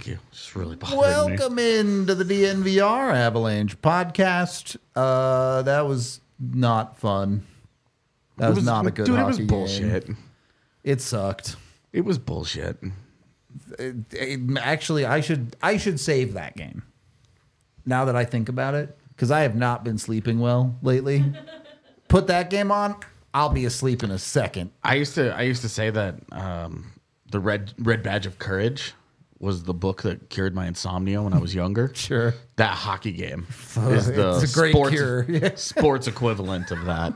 Thank you. It's really bothering me. Welcome into the DNVR Avalanche podcast. That was not fun. That was not a good hockey It was bullshit. game. It sucked. It was bullshit. Actually, I should save that game. Now that I think about it, because I have not been sleeping well lately. Put that game on, I'll be asleep in a second. I used to say that the Red Badge of Courage was the book that cured my insomnia when I was younger. Sure. That hockey game is the It's a great cure. Yeah. sports equivalent of that.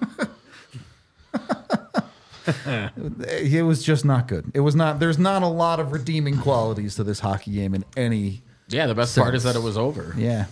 It was just not good. It was not. There's not a lot of redeeming qualities to this hockey game in any. Yeah, the best part is that it was over. Yeah.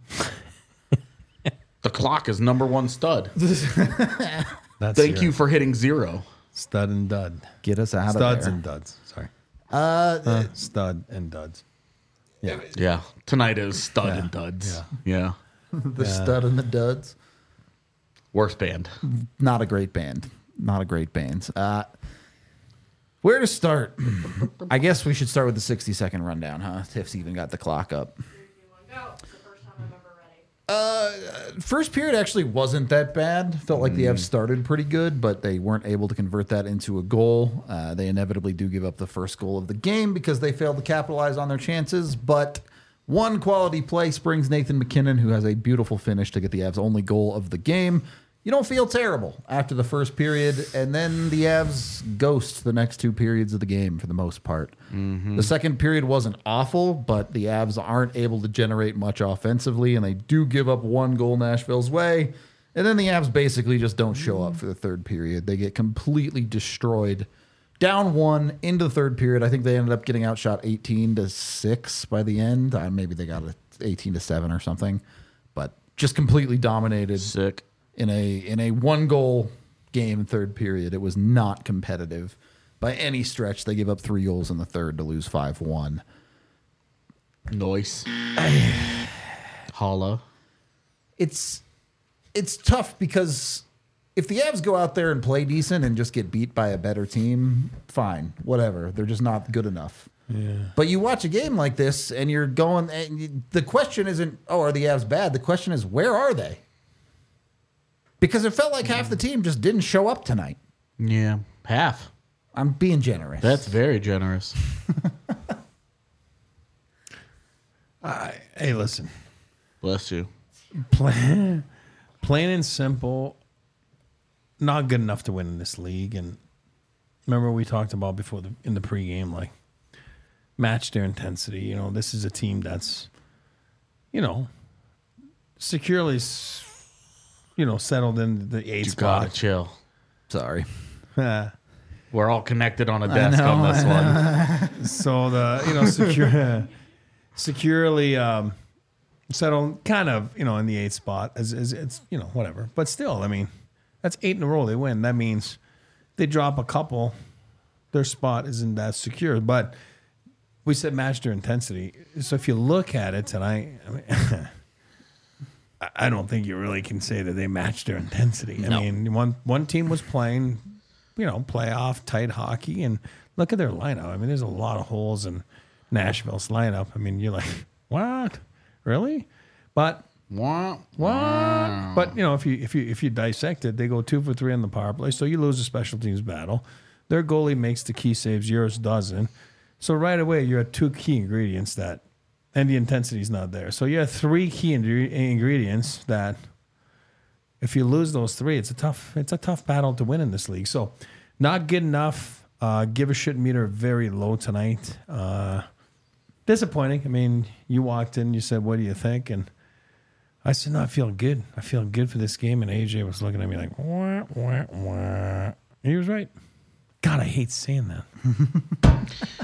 The clock is number one stud. That's Thank you for hitting 0. Stud and dud. Get us out Studs of there. and duds. Sorry. Stud and duds. Yeah. Yeah, tonight is stud and duds. Yeah. The stud and the duds. Worst band. Not a great band. Not a great band. Where to start? I guess we should start with the 60-second rundown, huh? Tiff's even got the clock up. First period actually wasn't that bad. Felt like the Avs started pretty good, but they weren't able to convert that into a goal. They inevitably do give up the first goal of the game because they failed to capitalize on their chances. But one quality play springs Nathan McKinnon, who has a beautiful finish to get the Avs' only goal of the game. You don't feel terrible after the first period, and then the Avs ghost the next 2 periods of the game for the most part. The second period wasn't awful, but the Avs aren't able to generate much offensively, and they do give up 1 goal Nashville's way. And then the Avs basically just don't show up for the third period. They get completely destroyed. Down 1 into the third period. I think they ended up getting outshot 18-6 by the end. Maybe they got it 18-7 or something, but just completely dominated. Sick. In a 1-goal game, third period. It was not competitive by any stretch. They give up 3 goals in the third to lose 5-1. Noise. Holla. It's tough because if the Avs go out there and play decent and just get beat by a better team, fine, whatever. They're just not good enough. Yeah. But you watch a game like this and you're going, and the question isn't, oh, are the Avs bad? The question is, where are they? Because it felt like half the team just didn't show up tonight. Yeah, half. I'm being generous. That's very generous. Hey, listen. Bless you. Plain and simple, not good enough to win in this league. And remember we talked about before in the pregame, like, match their intensity. You know, this is a team that's, securely settled in the 8th You spot. gotta chill. Sorry. We're all connected on a desk on this one. So securely settled kind of, in the 8th spot as it's, whatever. But still, I mean, that's 8 in a row they win. That means they drop a couple, their spot isn't that secure. But we said match their intensity. So if you look at it tonight, I mean, I don't think you really can say that they matched their intensity. I mean, one team was playing, playoff tight hockey, and look at their lineup. I mean, there's a lot of holes in Nashville's lineup. I mean, you're like, what, really? But What? But if you dissect it, they go 2 for 3 on the power play, so you lose a special teams battle. Their goalie makes the key saves, yours doesn't. So right away, you're at 2 key ingredients and the intensity's not there. So you have 3 key ingredients that, if you lose those 3, it's a tough battle to win in this league. So, not good enough. Give a shit meter very low tonight. Disappointing. I mean, you walked in, you said, "What do you think?" And I said, "No, I feel good. I feel good for this game." And AJ was looking at me like, "Wah, wah, wah." He was right. God, I hate saying that.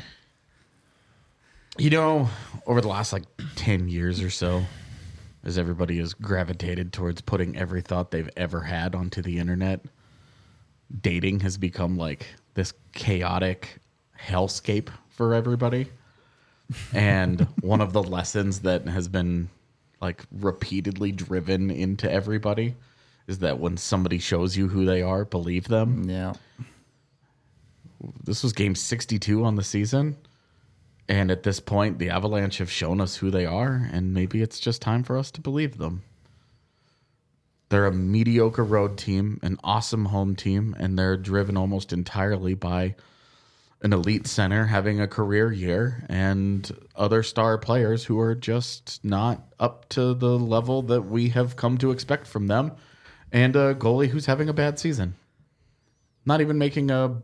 Over the last 10 years or so, as everybody has gravitated towards putting every thought they've ever had onto the internet, dating has become this chaotic hellscape for everybody. And one of the lessons that has been repeatedly driven into everybody is that when somebody shows you who they are, believe them. Yeah. This was game 62 on the season. And at this point, the Avalanche have shown us who they are, and maybe it's just time for us to believe them. They're a mediocre road team, an awesome home team, and they're driven almost entirely by an elite center having a career year and other star players who are just not up to the level that we have come to expect from them, and a goalie who's having a bad season. Not even making a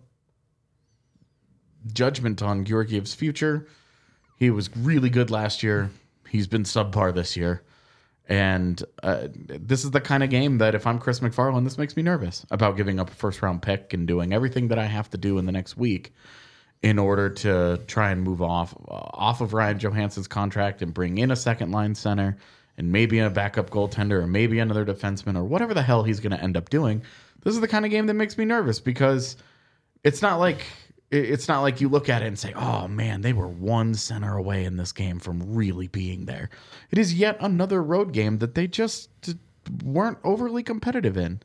judgment on Georgiev's future. He was really good last year. He's been subpar this year. And this is the kind of game that if I'm Chris McFarland, this makes me nervous about giving up a first-round pick and doing everything that I have to do in the next week in order to try and move off of Ryan Johansson's contract and bring in a second-line center and maybe a backup goaltender or maybe another defenseman or whatever the hell he's going to end up doing. This is the kind of game that makes me nervous because it's not like you look at it and say, oh, man, they were one center away in this game from really being there. It is yet another road game that they just weren't overly competitive in.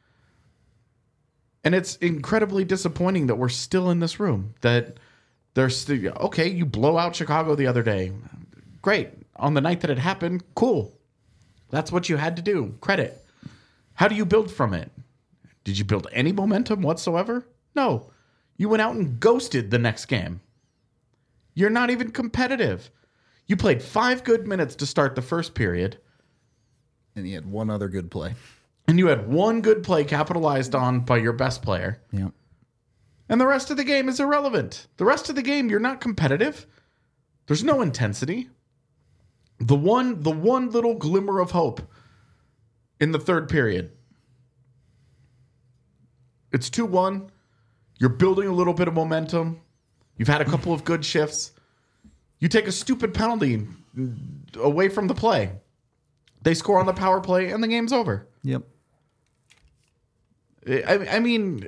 And it's incredibly disappointing that we're still in this room, that there's still, okay, you blow out Chicago the other day. Great. On the night that it happened, cool. That's what you had to do. Credit. How do you build from it? Did you build any momentum whatsoever? No. You went out and ghosted the next game. You're not even competitive. You played 5 good minutes to start the first period. And you had one other good play. And you had one good play capitalized on by your best player. Yeah. And the rest of the game is irrelevant. The rest of the game, you're not competitive. There's no intensity. The one little glimmer of hope in the third period. It's 2-1. You're building a little bit of momentum. You've had a couple of good shifts. You take a stupid penalty away from the play. They score on the power play, and the game's over. Yep. I mean,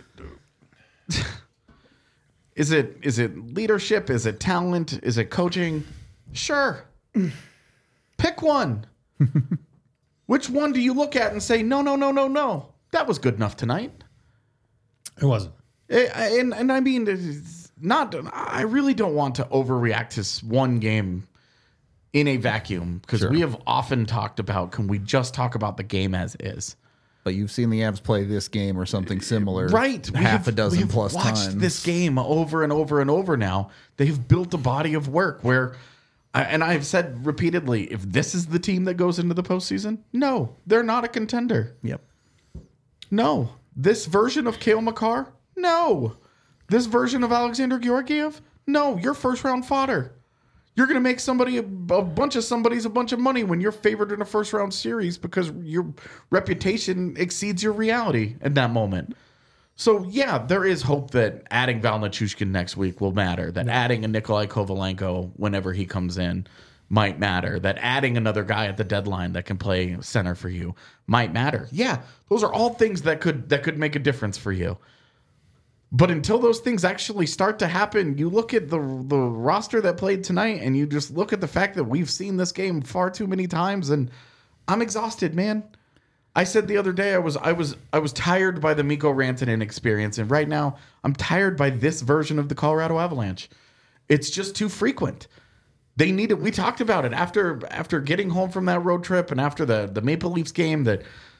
is it leadership? Is it talent? Is it coaching? Sure. Pick one. Which one do you look at and say, no, that was good enough tonight? It wasn't. And I mean, I really don't want to overreact to one game in a vacuum because we have often talked about, can we just talk about the game as is? But you've seen the Avs play this game or something similar, right? Half a dozen plus watched times. This game over and over and over. Now they've built a body of work where, and I've said repeatedly, if this is the team that goes into the postseason, no, they're not a contender. Yep. No, this version of Cale Makar, no. This version of Alexander Georgiev, no. You're first round fodder. You're going to make somebody a bunch of somebody's a bunch of money when you're favored in a first round series because your reputation exceeds your reality in that moment. So, yeah, there is hope that adding Val Nichushkin next week will matter, that adding a Nikolai Kovalenko whenever he comes in might matter, that adding another guy at the deadline that can play center for you might matter. Yeah, those are all things that could make a difference for you. But until those things actually start to happen, you look at the roster that played tonight and you just look at the fact that we've seen this game far too many times, and I'm exhausted, man. I said the other day I was tired by the Mikko Rantanen experience, and right now I'm tired by this version of the Colorado Avalanche. It's just too frequent. They need it. We talked about it after getting home from that road trip and after the Maple Leafs game that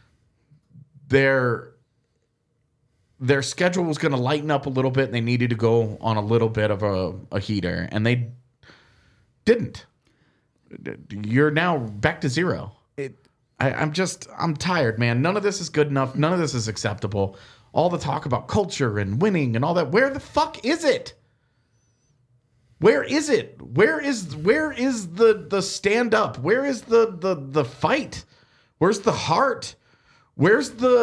their schedule was going to lighten up a little bit and they needed to go on a little bit of a heater, and they didn't. You're now back to zero. I'm tired, man. None of this is good enough. None of this is acceptable. All the talk about culture and winning and all that. Where the fuck is it? Where is it? Where is the stand up? Where is the fight? Where's the heart? We're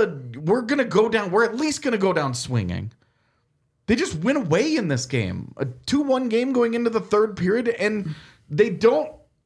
at least gonna go down swinging. They just went away in this game. A 2-1 game going into the third period, and they don't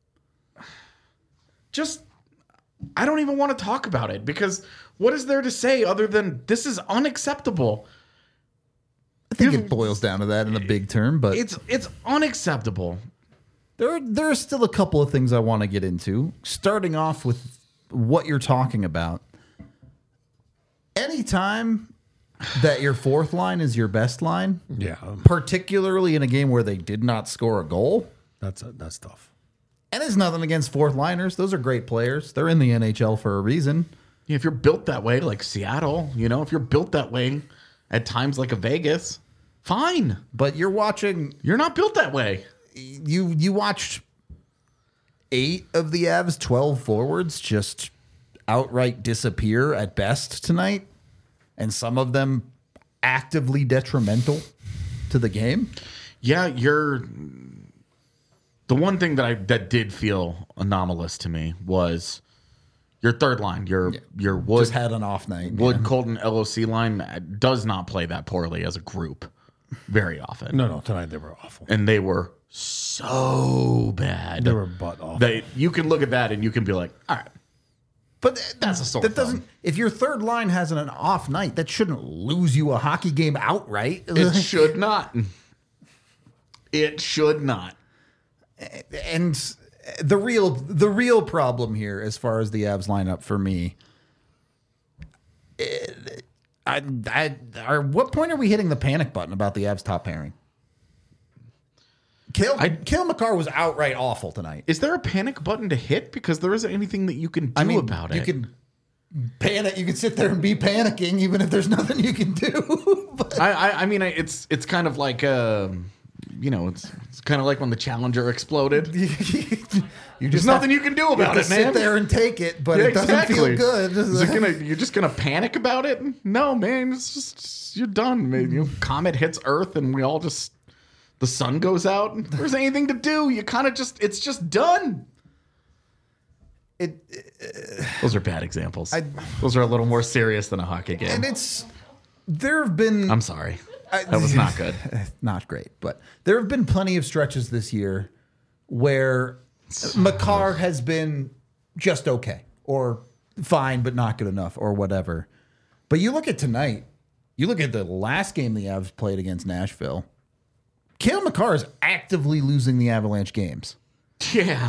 just, I don't even want to talk about it because what is there to say other than this is unacceptable? I think it boils down to that in the big term, but it's unacceptable. There are still a couple of things I want to get into, starting off with what you're talking about. Anytime that your fourth line is your best line, Yeah, particularly in a game where they did not score a goal. that's tough. And it's nothing against fourth liners. Those are great players. They're in the NHL for a reason. Yeah, if you're built that way, like Seattle, if you're built that way at times like a Vegas, fine. But you're watching. You're not built that way. You watched 8 of the Avs 12 forwards just outright disappear at best tonight, and some of them actively detrimental to the game. Yeah, the one thing that did feel anomalous to me was your third line. Your Wood Just had an off night. Wood man. Colton LOC line does not play that poorly as a group very often. No, tonight they were awful. And they were so bad. They were butt awful. You can look at that and you can be like, all right. But That's a sore that doesn't. thumb. If your third line has an off night, that shouldn't lose you a hockey game outright. It should not. It should not. And the real problem here, as far as the Avs lineup for me, what point are we hitting the panic button about the Avs top pairing? Cale Makar was outright awful tonight. Is there a panic button to hit? Because there isn't anything that you can do about it. You can panic. You can sit there and be panicking, even if there's nothing you can do. But I mean, it's kind of like it's kind of like when the Challenger exploded. There's nothing you can do about it, man. Sit there and take it, but Yeah, it doesn't exactly. feel good. You're just gonna panic about it? No, man. It's just you're done. Man. Comet hits Earth, and we all just the sun goes out. If there's anything to do, you kind of it's just done. Those are bad examples. Those are a little more serious than a hockey game. And there have been. I'm sorry. That was not good. Not great, but there have been plenty of stretches this year where Makar has been just okay or fine, but not good enough or whatever. But you look at tonight, you look at the last game the Avs played against Nashville. Cale Makar is actively losing the Avalanche games. Yeah.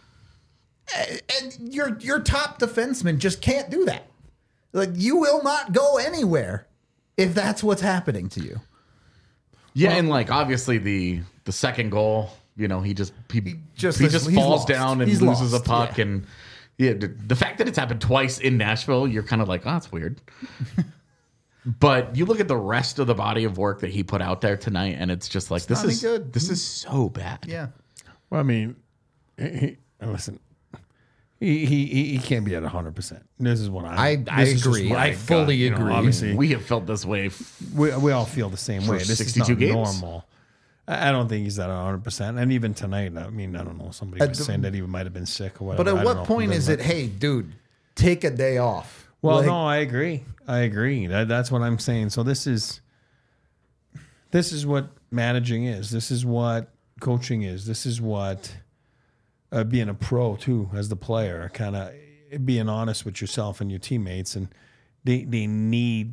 And your top defenseman just can't do that. Like, you will not go anywhere if that's what's happening to you. Yeah, and like obviously the second goal, he just he's falls lost. down and He's loses lost, a puck, yeah. and the fact that it's happened twice in Nashville, you're kind of like, oh, that's weird. But you look at the rest of the body of work that he put out there tonight, and it's just like not any good. This is so bad. Yeah. Well, I mean, listen, he can't be at 100%. This is what I this is just agree. what I I've fully got. agree. Obviously, We have felt this way. we all feel the same way. This is 62 not games? normal. I don't think he's at 100%. And even tonight, I mean, I don't know. Somebody was saying that he might have been sick or whatever. But at I don't what know. point is it, hey, dude, take a day off? Well, Like, no, I agree. That's what I'm saying. So this is what managing is. This is what coaching is. This is what being a pro too, as the player, kind of being honest with yourself and your teammates, and they need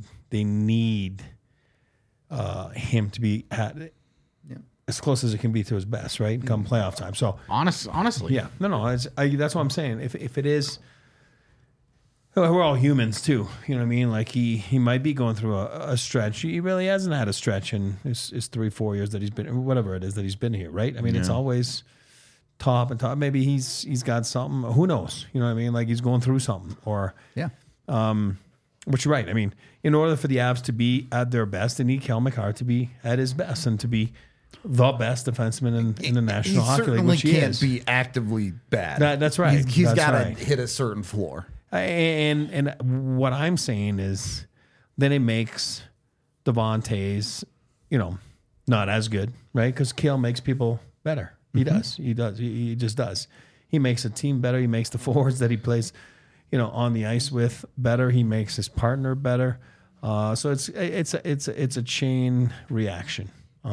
him to be at as close as it can be to his best, right? Come playoff time. So Honestly. yeah, no, that's what I'm saying. If it is. We're all humans too, you know what I mean? Like he might be going through a stretch. He really hasn't had a stretch in his 3-4 years that he's been, whatever it is that he's been here, right? I mean, it's always top and top. Maybe he's got something. Who knows? You know what I mean? Like he's going through something, or yeah. But you're right. I mean, in order for the Avs to be at their best, they need Cale Makar to be at his best and to be the best defenseman in the National Hockey League, which he can't is. be actively bad. That's right. He's That's got to right. hit a certain floor. And what I'm saying is, then it makes Devontae's, not as good, right? Because Cale makes people better. He does. He does. He just does. He makes a team better. He makes the forwards that he plays, on the ice with better. He makes his partner better. So it's a chain reaction.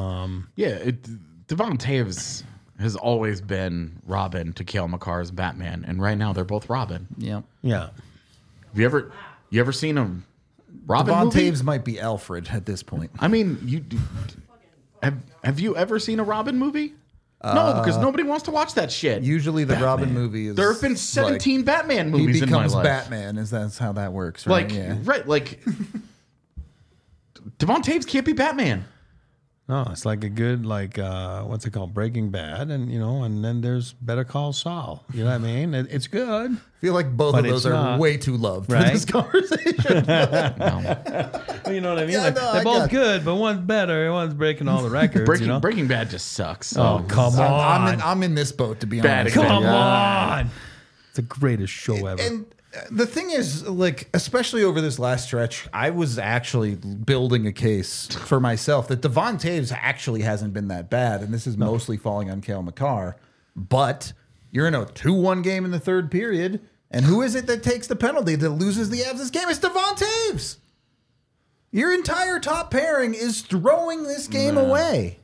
Devon has always been Robin to Cale Makar's Batman, and right now they're both Robin. Yeah. Yeah. Have you ever seen a Robin Devon movie? Taves might be Alfred at this point. I mean, have you ever seen a Robin movie? No, because nobody wants to watch that shit. Usually the Robin movie is... There have been 17 Batman movies he in my becomes life. Batman, that's how that works, right? Right, like Devon Taves can't be Batman. No, it's like a good, like, what's it called? Breaking Bad. And, and then there's Better Call Saul. You know what I mean? It's good. I feel like both But of those it's are not. way too loved Right? for this conversation. You know what I mean? Yeah, Like, no, I they're both got it. good, but one's better. One's breaking all the records, Breaking Bad just sucks. Oh, come on. I'm in this boat, to be Bad honest. example. Come on. It's the greatest show ever. And the thing is, like, especially over this last stretch, I was actually building a case for myself that Devon Taves actually hasn't been that bad, and this is mostly falling on Cale Makar. But you're in a 2-1 game in the third period, and who is it that takes the penalty that loses the Avs this game? It's Devon Taves. Your entire top pairing is throwing this game away.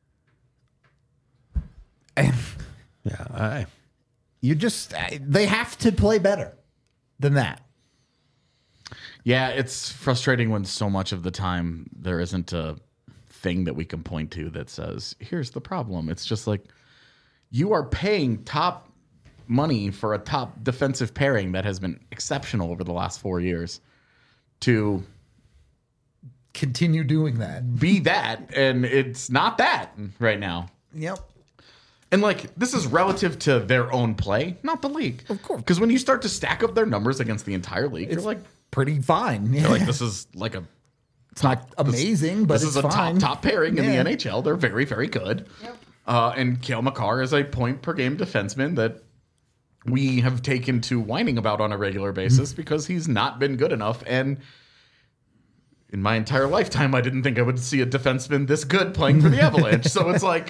And yeah, they have to play better than that. Yeah, it's frustrating when so much of the time there isn't a thing that we can point to that says, here's the problem. It's just like, you are paying top money for a top defensive pairing that has been exceptional over the last 4 years to Continue doing that. be that, and it's not that right now. Yep. And like, this is relative to their own play, not the league. Of course. Because when you start to stack up their numbers against the entire league, you're like, Pretty fine. this is like it's not amazing, but this it's is a fine. top pairing in Yeah. the NHL. They're very, very good. Yep. And Cale Makar is a point per game defenseman that we have taken to whining about on a regular basis because he's not been good enough. And in my entire lifetime, I didn't think I would see a defenseman this good playing for the Avalanche. So it's like,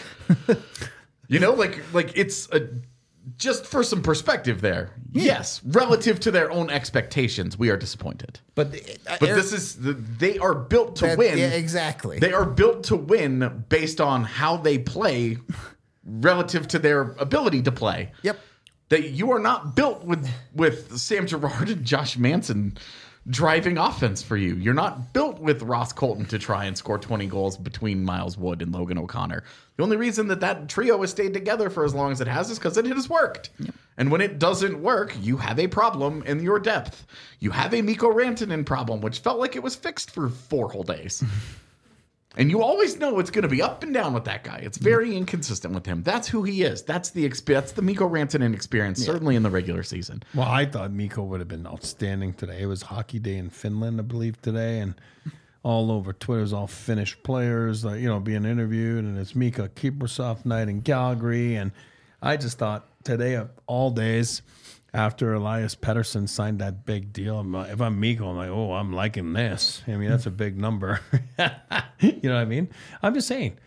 like it's just for some perspective there. Yes, relative to their own expectations, we are disappointed. But this is they are built to win. Yeah, exactly. They are built to win based on how they play relative to their ability to play. Yep. That you are not built with Sam Girard and Josh Manson driving offense for you. You're not built with Ross Colton to try and score 20 goals between Miles Wood and Logan O'Connor. The only reason that trio has stayed together for as long as it has is because it has worked. Yep. And when it doesn't work, you have a problem in your depth. You have a Mikko Rantanen problem, which felt like it was fixed for 4 whole days. And you always know it's going to be up and down with that guy. It's very inconsistent with him. That's who he is. That's the Mikko Rantanen experience, certainly in the regular season. Well, I thought Mikko would have been outstanding today. It was Hockey Day in Finland, I believe, today, and all over Twitter, it was all Finnish players, being interviewed, and it's Mika Kiprusoff night in Calgary, and I just thought today of all days, after Elias Pettersson signed that big deal, if I'm Mikko, I'm like, oh, I'm liking this. I mean, that's a big number. You know what I mean? I'm just saying.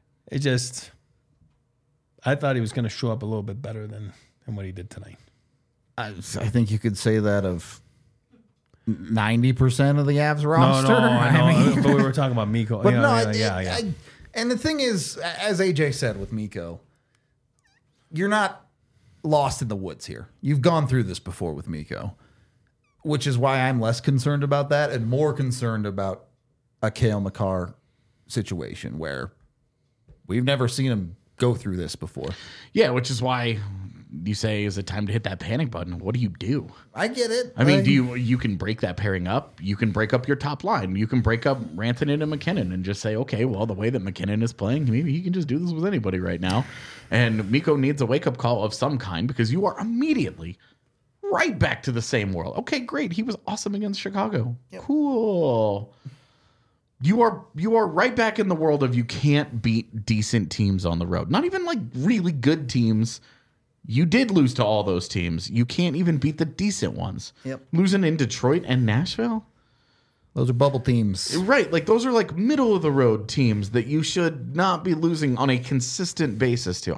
I thought he was going to show up a little bit better than what he did tonight. I think you could say that of 90% of the Avs roster. No, I know. But we were talking about Mikko. But Yeah. And the thing is, as AJ said with Mikko, you're not lost in the woods here. You've gone through this before with Mikko, which is why I'm less concerned about that and more concerned about a Cale Makar situation where we've never seen him go through this before. Yeah, which is why you say, is it time to hit that panic button? What do you do? I get it. I mean, you can break that pairing up. You can break up your top line. You can break up Rantanen and McKinnon and just say, okay, well, the way that McKinnon is playing, maybe he can just do this with anybody right now. And Mikko needs a wake-up call of some kind because you are immediately right back to the same world. Okay, great. He was awesome against Chicago. Yep. Cool. You are right back in the world of you can't beat decent teams on the road. Not even like really good teams. You did lose to all those teams. You can't even beat the decent ones. Yep. Losing in Detroit and Nashville? Those are bubble teams. Right. Like those are like middle of the road teams that you should not be losing on a consistent basis to.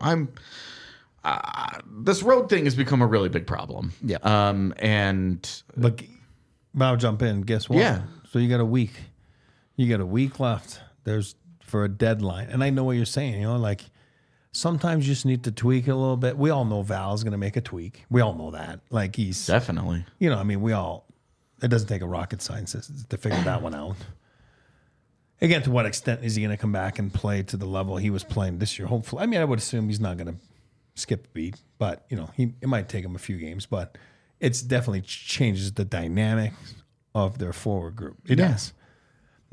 This road thing has become a really big problem. Yeah. But I'll jump in. Guess what? Yeah. So you got a week. You got a week left. There's for a deadline. And I know what you're saying, like sometimes you just need to tweak it a little bit. We all know Val's going to make a tweak. We all know that. Like he's definitely, it doesn't take a rocket scientist to figure that one out. Again, to what extent is he going to come back and play to the level he was playing this year? Hopefully. I mean, I would assume he's not going to skip a beat, but it might take him a few games, but it's definitely changes the dynamics of their forward group. It does.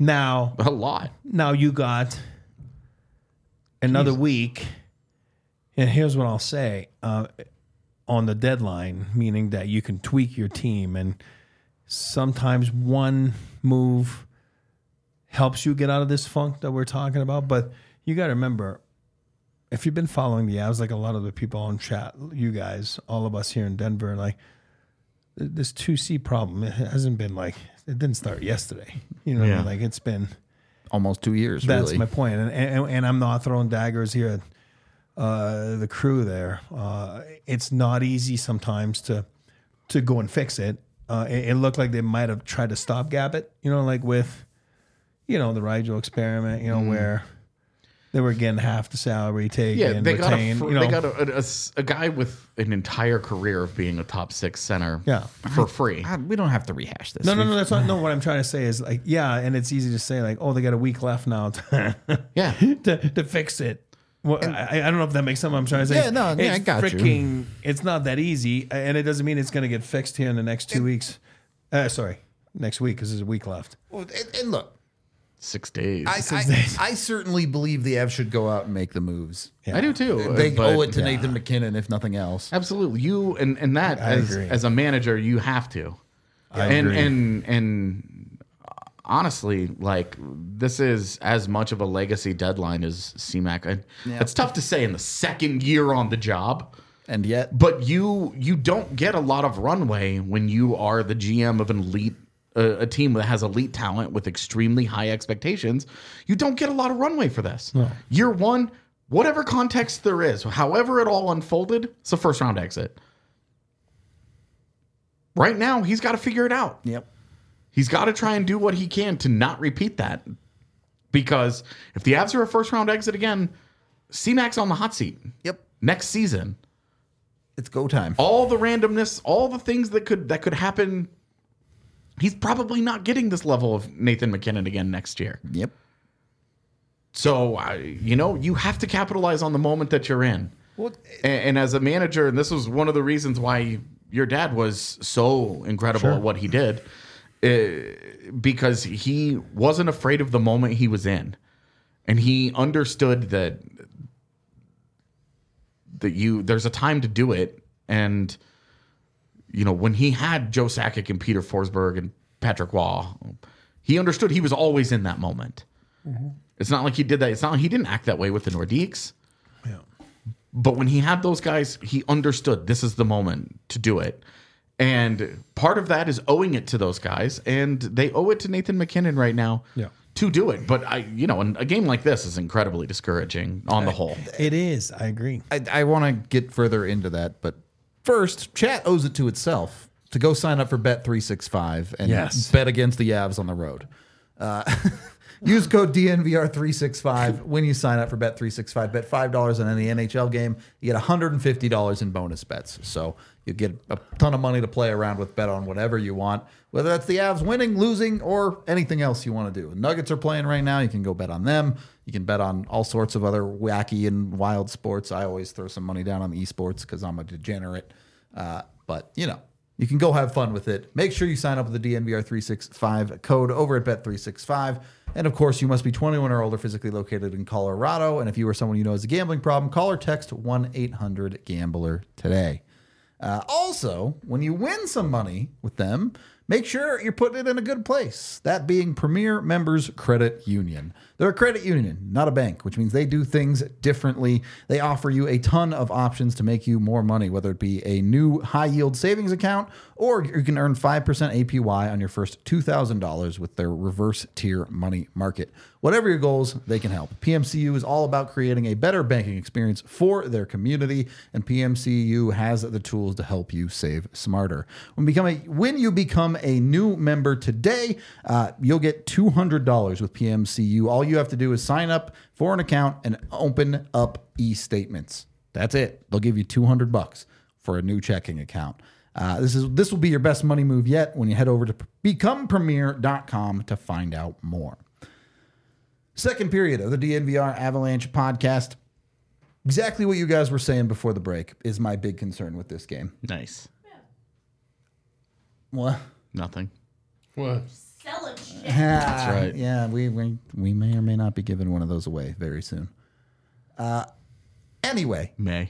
Now A lot. you got another week, and here's what I'll say on the deadline, meaning that you can tweak your team, and sometimes one move helps you get out of this funk that we're talking about. But you got to remember, if you've been following the Avs, like a lot of the people on chat, you guys, all of us here in Denver, like this 2C problem, it hasn't been like, it didn't start yesterday. You know what I mean? Like it's been almost 2 years. That's really. my point. And I'm not throwing daggers here at the crew there. It's not easy sometimes to go and fix it. It looked like they might have tried to stopgap it, like with, the Rigel experiment, where they were getting half the salary taken, they retained. they got a guy with an entire career of being a top 6 center for free. We don't have to rehash this. No, that's not. No, what I'm trying to say is like, and it's easy to say like, oh, they got a week left now to fix it. Well, I don't know if that makes sense. I'm trying to say. I got you. It's not that easy, and it doesn't mean it's going to get fixed here in the next 2 weeks. Next week because there's a week left. Well, and look, 6 days. I certainly believe the Avs should go out and make the moves. I do too. They owe it to Nathan McKinnon, if nothing else. Absolutely. You and that as a manager, you have to. I agree. And honestly, like this is as much of a legacy deadline as CMAC. It's tough to say in the second year on the job. And yet, but you don't get a lot of runway when you are the GM of an elite. A team that has elite talent with extremely high expectations, you don't get a lot of runway for this. No. Year one, whatever context there is, however it all unfolded, it's a first round exit. Right now, he's got to figure it out. Yep. He's got to try and do what he can to not repeat that. Because if the Avs are a first round exit again, C-Mac's on the hot seat. Yep. Next season. It's go time. All the randomness, all the things that could happen. He's probably not getting this level of Nathan McKinnon again next year. Yep. So, you have to capitalize on the moment that you're in. Well, and as a manager, and this was one of the reasons why your dad was so incredible at what he did, because he wasn't afraid of the moment he was in. And he understood that there's a time to do it. And when he had Joe Sakic and Peter Forsberg and Patrick Waugh, he understood he was always in that moment. Mm-hmm. It's not like he did that. It's not like he didn't act that way with the Nordiques. Yeah. But when he had those guys, he understood this is the moment to do it. And part of that is owing it to those guys. And they owe it to Nathan McKinnon right now to do it. But a game like this is incredibly discouraging on the whole. It is. I agree. I want to get further into that, but first, chat owes it to itself to go sign up for Bet365 and bet against the Avs on the road. Use code DNVR365 when you sign up for Bet365. Bet $5 on any NHL game. You get $150 in bonus bets. So you get a ton of money to play around with. Bet on whatever you want, whether that's the Avs winning, losing, or anything else you want to do. The Nuggets are playing right now. You can go bet on them. You can bet on all sorts of other wacky and wild sports. I always throw some money down on the esports because I'm a degenerate. But, you can go have fun with it. Make sure you sign up with the DNVR365 code over at Bet365. And, of course, you must be 21 or older, physically located in Colorado. And if you or someone you know has a gambling problem, call or text 1-800-GAMBLER today. Also, when you win some money with them, make sure you're putting it in a good place. That being Premier Members Credit Union. They're a credit union, not a bank, which means they do things differently. They offer you a ton of options to make you more money, whether it be a new high-yield savings account or you can earn 5% APY on your first $2,000 with their reverse tier money market. Whatever your goals, they can help. PMCU is all about creating a better banking experience for their community, and PMCU has the tools to help you save smarter. When you become a new member today, you'll get $200 with PMCU. All you have to do is sign up for an account and open up e-statements. That's it. They'll give you $200 for a new checking account. This will be your best money move yet when you head over to becomepremier.com to find out more. Second period of the DNVR Avalanche podcast. Exactly what you guys were saying before the break is my big concern with this game. Nice. What? Nothing. What? Sell a That's right. Yeah, we may or may not be giving one of those away very soon. Anyway, May.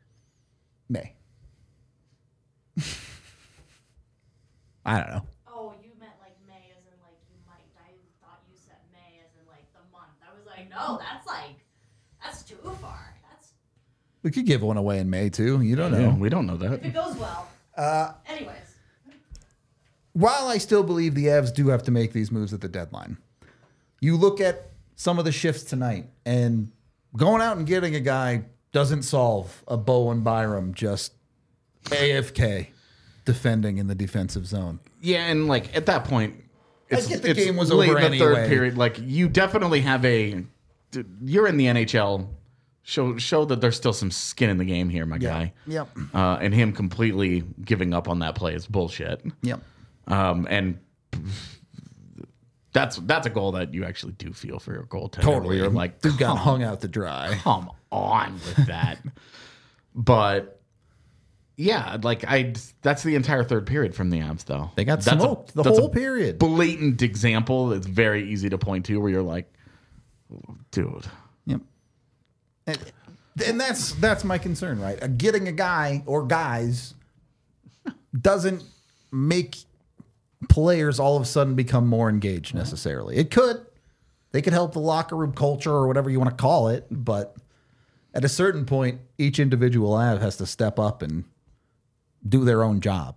I don't know. Oh, you meant like May as in like you might. I thought you said May as in like the month. I was like, no, that's too far. We could give one away in May too. You don't know. Yeah, we don't know that. If it goes well. Anyways. While I still believe the Avs do have to make these moves at the deadline, you look at some of the shifts tonight, and going out and getting a guy doesn't solve a Bowen Byram just AFK defending in the defensive zone. Yeah, and like at that point, it's get the it's game was late over in the third anyway. period. Like you definitely have you're in the NHL. Show that there's still some skin in the game here, my guy. Yep. And him completely giving up on that play is bullshit. Yep. And that's a goal that you actually do feel for your goaltender. Totally. Where you're like, Dude got hung out to dry. come on with that. But yeah, that's the entire third period from the Avs, though. They got That's smoked the that's whole a period. Blatant example. It's very easy to point to where you're like, dude. Yep. And that's my concern, right? Getting a guy or guys doesn't make players all of a sudden become more engaged necessarily. It could. They could help the locker room culture or whatever you want to call it, but at a certain point, each individual Av has to step up and do their own job.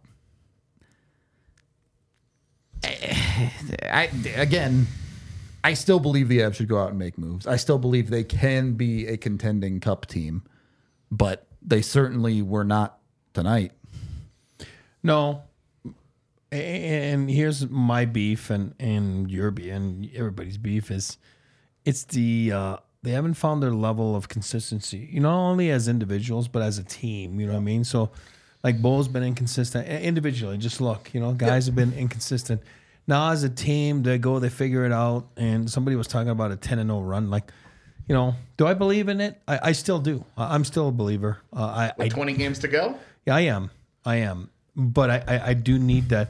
I still believe the Avs should go out and make moves. I still believe they can be a contending cup team, but they certainly were not tonight. No. And here's my beef and your beef and everybody's beef is it's they haven't found their level of consistency, not only as individuals, but as a team, you know what I mean? So like Bo's been inconsistent individually. Just look, guys have been inconsistent. Now as a team, they figure it out. And somebody was talking about a 10-0 run. Like, do I believe in it? I still do. I'm still a believer. With 20 games to go? Yeah, I am. But I do need that.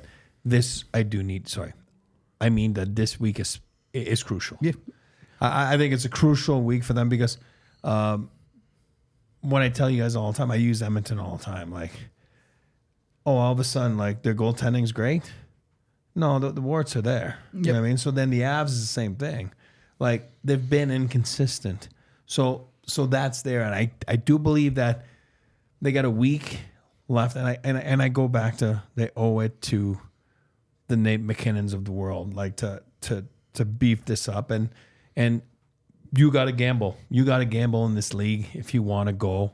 I mean that this week is crucial. Yeah. I think it's a crucial week for them because when I tell you guys all the time, I use Edmonton all the time. Like, all of a sudden, like their goaltending's great. No, the warts are there. You know what I mean? So then the Avs is the same thing. Like they've been inconsistent. So that's there. And I do believe that they got a week left. And I go back to they owe it to the Nate McKinnons of the world, like to beef this up. And you got to gamble. You got to gamble in this league if you want to go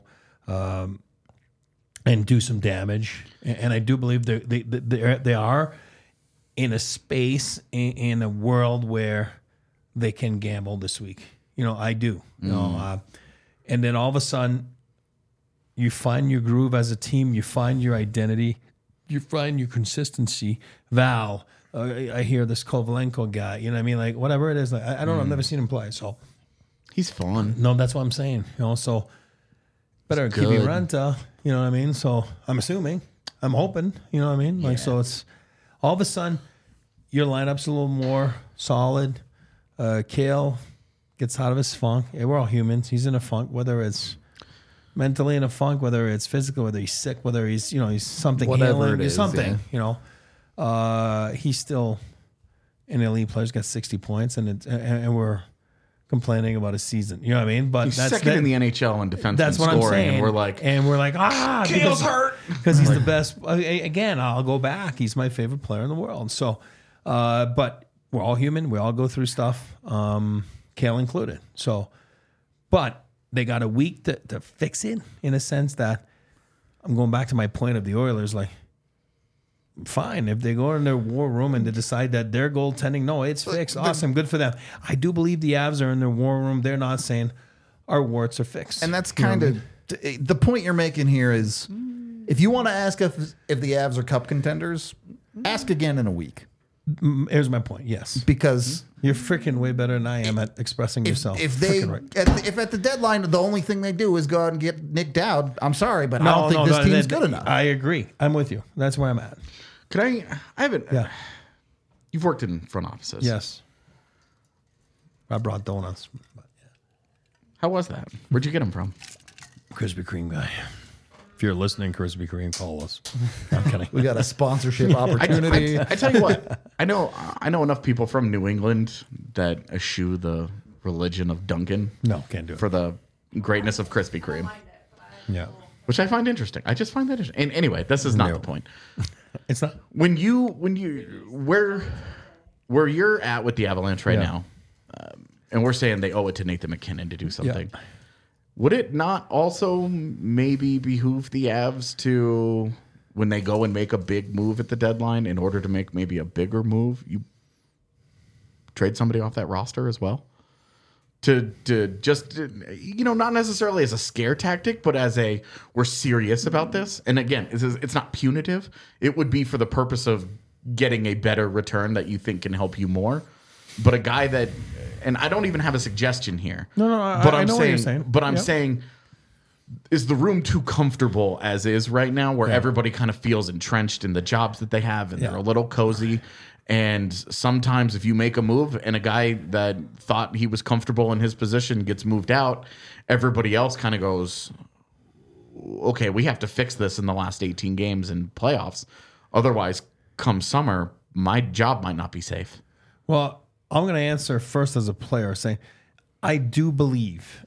and do some damage. And I do believe they are in a space in a world where they can gamble this week. I do. And then all of a sudden, you find your groove as a team. You find your identity. You find your consistency. Val, I hear this Kovalenko guy. You know what I mean? Like whatever it is. Like, I don't know. I've never seen him play. So He's fun. no, that's what I'm saying. So better keep good. Renta. You know what I mean? So I'm assuming. I'm hoping. You know what I mean? Like so it's all of a sudden your lineup's a little more solid. Kale gets out of his funk. Yeah, we're all humans. He's in a funk, whether it's mentally in a funk, whether it's physical, whether he's sick, whether he's he's something Whatever healing, it is, something. He's still an elite player. He's got 60 points, and we're complaining about a season. You know what I mean? But He's that's second in the NHL in defenseman that's what scoring, I'm saying. and we're like, Kale's hurt because he's the best. Again, I'll go back. He's my favorite player in the world. So, but we're all human. We all go through stuff, Kale included. So, but they got a week to fix it in a sense that I'm going back to my point of the Oilers. Like, fine if they go in their war room and they decide that their goaltending, no, it's fixed. Awesome, good for them. I do believe the Avs are in their war room. They're not saying our warts are fixed. And that's kind of the point you're making here is if you want to ask if the Avs are cup contenders, ask again in a week. Here's my point. Yes, Because you're freaking way better than I am at expressing yourself. if they Frickin' right. if at the deadline the only thing they do is go out and get Nick Dowd, I'm sorry, but I don't think this team's good enough. I agree. I'm with you. That's where I'm at. could I haven't. Yeah. You've worked in front offices. Yes. I brought donuts. But How was that? Where'd you get them from? Krispy Kreme guy. If you're listening, Krispy Kreme, call us. I'm kidding. We got a sponsorship opportunity. I tell you what, I know enough people from New England that eschew the religion of Dunkin'. No, can't do it. For the greatness of Krispy Kreme, Find it, but I Yeah. which I find interesting. I just find that interesting. And anyway, this is not No. the point. It's not. When you where you're at with the Avalanche right Yeah. now, and we're saying they owe it to Nathan McKinnon to do something. Would it not also maybe behoove the Avs to, when they go and make a big move at the deadline, in order to make maybe a bigger move, you trade somebody off that roster as well? To just, not necessarily as a scare tactic, but as a, we're serious about this. And again, it's not punitive. It would be for the purpose of getting a better return that you think can help you more. But a guy that, and I don't even have a suggestion here. No, but I I'm know saying, what you're saying. But I'm Yep. saying, is the room too comfortable as is right now, where everybody kind of feels entrenched in the jobs that they have, and they're a little cozy? And sometimes if you make a move and a guy that thought he was comfortable in his position gets moved out, everybody else kind of goes, okay, we have to fix this in the last 18 games in playoffs. Otherwise, come summer, my job might not be safe. Well, I'm going to answer first as a player, saying I do believe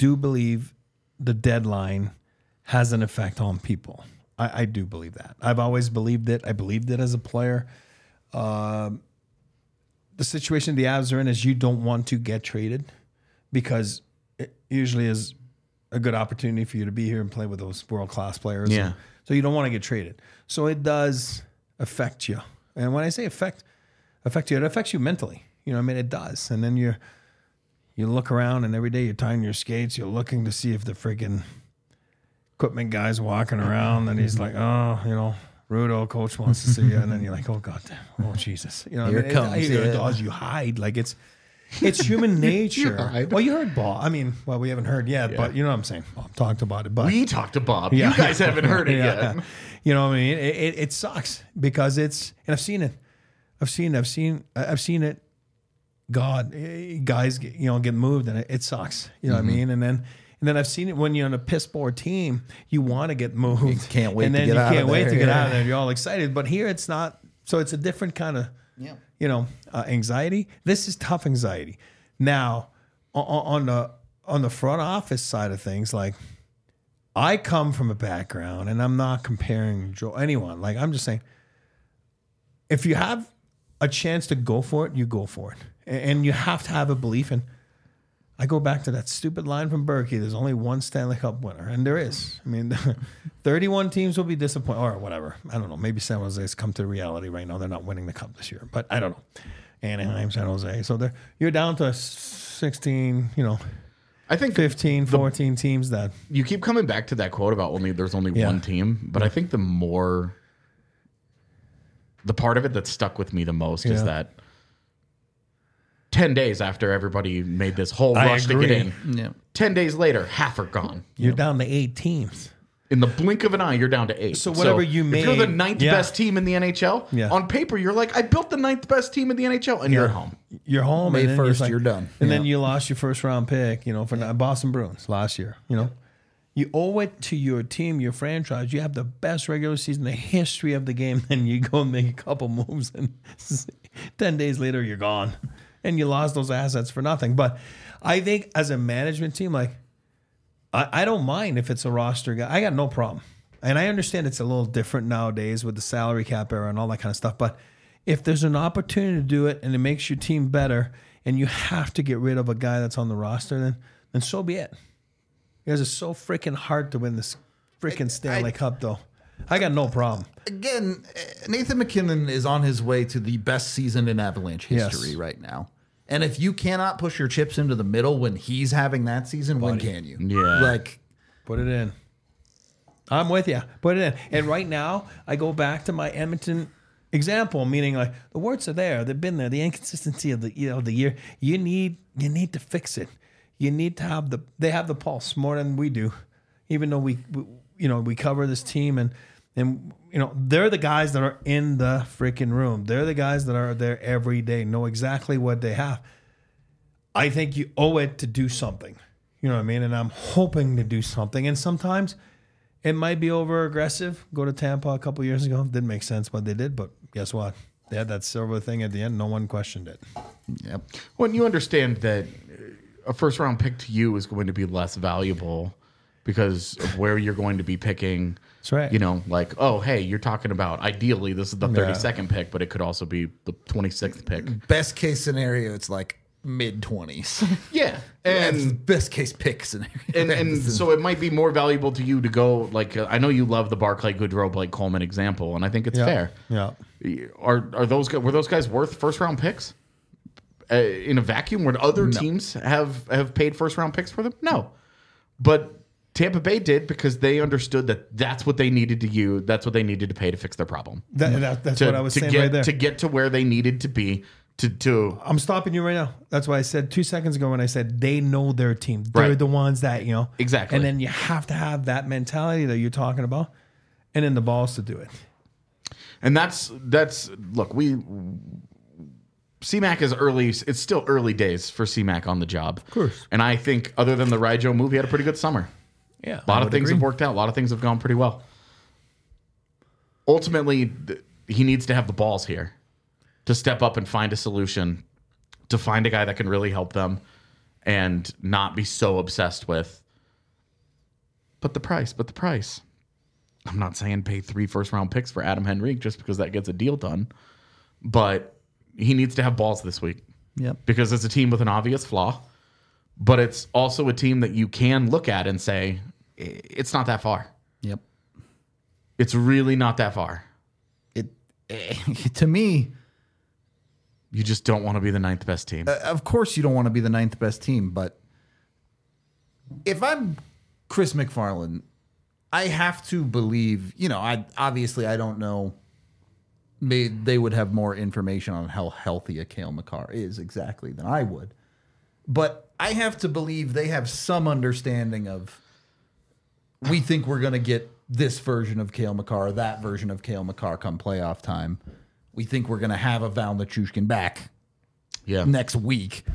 the deadline has an effect on people. I do believe that. I've always believed it. I believed it as a player. The situation the Avs are in is you don't want to get traded because it usually is a good opportunity for you to be here and play with those world-class players. Yeah. And so you don't want to get traded. So it does affect you. And when I say affect you, it affects you mentally. It does. And then you look around and every day you're tying your skates, you're looking to see if the freaking equipment guy's walking around and he's like, Rudo, coach wants to see you. And then you're like, oh, God, oh, Jesus. Here it comes, It yeah. does. You hide. Like it's human nature. hide. Well, you heard Bob. We haven't heard yet, but you know what I'm saying. Bob talked about it. But We talked to Bob. Yeah. You guys haven't heard it Yeah. yet. You know what I mean? It sucks because and I've seen it. I've seen it. Guys get moved and it sucks. You know what I mean? And then I've seen it when you're on a piss poor team, you want to get moved. You can't wait and to then get you out of can't wait there, to get yeah. out of there. You're all excited. But here it's not. So it's a different kind of anxiety. This is tough anxiety. Now on the front office side of things, like I come from a background, and I'm not comparing anyone. Like I'm just saying, if you have a chance to go for it, you go for it, and you have to have a belief. And I go back to that stupid line from Berkey. There's only one Stanley Cup winner, and there is. 31 teams will be disappointed, or whatever. I don't know. Maybe San Jose's come to reality right now. They're not winning the cup this year, but I don't know. Anaheim, San Jose. So you're down to 16. I think 15, 14 teams that you keep coming back to that quote about there's only one team, but I think the part of it that stuck with me the most is that 10 days after everybody made this whole I rush to get agree. in, 10 days later, half are gone. you're down to 8 teams. In the blink of an eye, you're down to 8. So whatever you if you're the made- ninth yeah. best team in the NHL, Yeah. on paper, you're like, I built the ninth best team in the NHL, and you're at home. You're home. May and then 1st, like- you're done. And then Yeah. you lost your first round pick, for the Boston Bruins last year. You owe it to your team, your franchise. You have the best regular season in the history of the game. Then you go and make a couple moves, and 10 days later, you're gone. And you lost those assets for nothing. But I think as a management team, like, I don't mind if it's a roster guy. I got no problem. And I understand it's a little different nowadays with the salary cap era and all that kind of stuff. But if there's an opportunity to do it and it makes your team better and you have to get rid of a guy that's on the roster, then so be it. Because it's so freaking hard to win this freaking Stanley Cup, though. I got no problem. Again, Nathan McKinnon is on his way to the best season in Avalanche history Yes. right now. And if you cannot push your chips into the middle when he's having that season, when can you? Yeah. Like, Put it in. I'm with you. Put it in. And right now, I go back to my Edmonton example, meaning like the words are there. They've been there. The inconsistency of the year. You need to fix it. You need to they have the pulse more than we do, even though we cover this team and And, they're the guys that are in the freaking room. They're the guys that are there every day, know exactly what they have. I think you owe it to do something. You know what I mean? And I'm hoping to do something. And sometimes it might be over aggressive. Go to Tampa a couple years ago. Didn't make sense what they did, but guess what? They had that silver thing at the end. No one questioned it. Yep. When you understand that a first round pick to you is going to be less valuable because of where you're going to be picking. That's right. Like, oh, hey, you're talking about ideally this is the 32nd pick, but it could also be the 26th pick. Best case scenario, it's like mid-20s. Yeah. And And best case pick scenario. and so it might be more valuable to you to go, like, I know you love the Barclay Goodrow, Blake Coleman example, and I think it's fair. Yeah. Were those guys worth first round picks in a vacuum? Would other teams have paid first round picks for them? No, but Tampa Bay did because they understood that that's what they needed to use. That's what they needed to pay to fix their problem. That's what I was saying right there. To get to where they needed to be. I'm stopping you right now. That's why I said 2 seconds ago when I said they know their team. They're Right. the ones that, Exactly. And then you have to have that mentality that you're talking about and then the balls to do it. And that's look, CMAC is early. It's still early days for CMAC on the job. Of course. And I think other than the Ryjo move, he had a pretty good summer. Yeah. A lot of things have worked out. A lot of things have gone pretty well. Ultimately, he needs to have the balls here to step up and find a solution, to find a guy that can really help them and not be so obsessed with. But the price. I'm not saying pay 3 first-round picks for Adam Henrique just because that gets a deal done. But he needs to have balls this week. Yep. Because it's a team with an obvious flaw. But it's also a team that you can look at and say, it's not that far. Yep. It's really not that far. To me, You just don't want to be the 9th best team. of course you don't want to be the 9th best team, but if I'm Chris McFarland, I have to believe, I don't know. They would have more information on how healthy a Cale Makar is exactly than I would. But I have to believe they have some understanding of, we think we're going to get this version of Cale Makar, that version of Cale Makar come playoff time. We think we're going to have a Val Nichushkin back next week.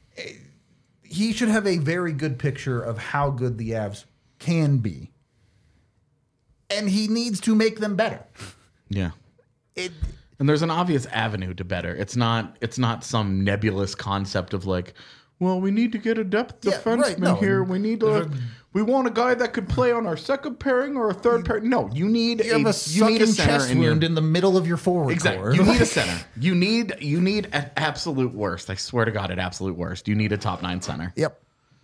He should have a very good picture of how good the Avs can be. And he needs to make them better. Yeah. And there's an obvious avenue to better. It's not some nebulous concept of like, well, we need to get a depth defenseman here. We want a guy that could play on our second pairing or a third pairing. No, you need a sucking center chest wound in the middle of your forward core. You need a center. You need at absolute worst. I swear to God, at absolute worst, you need a top 9 center. Yep.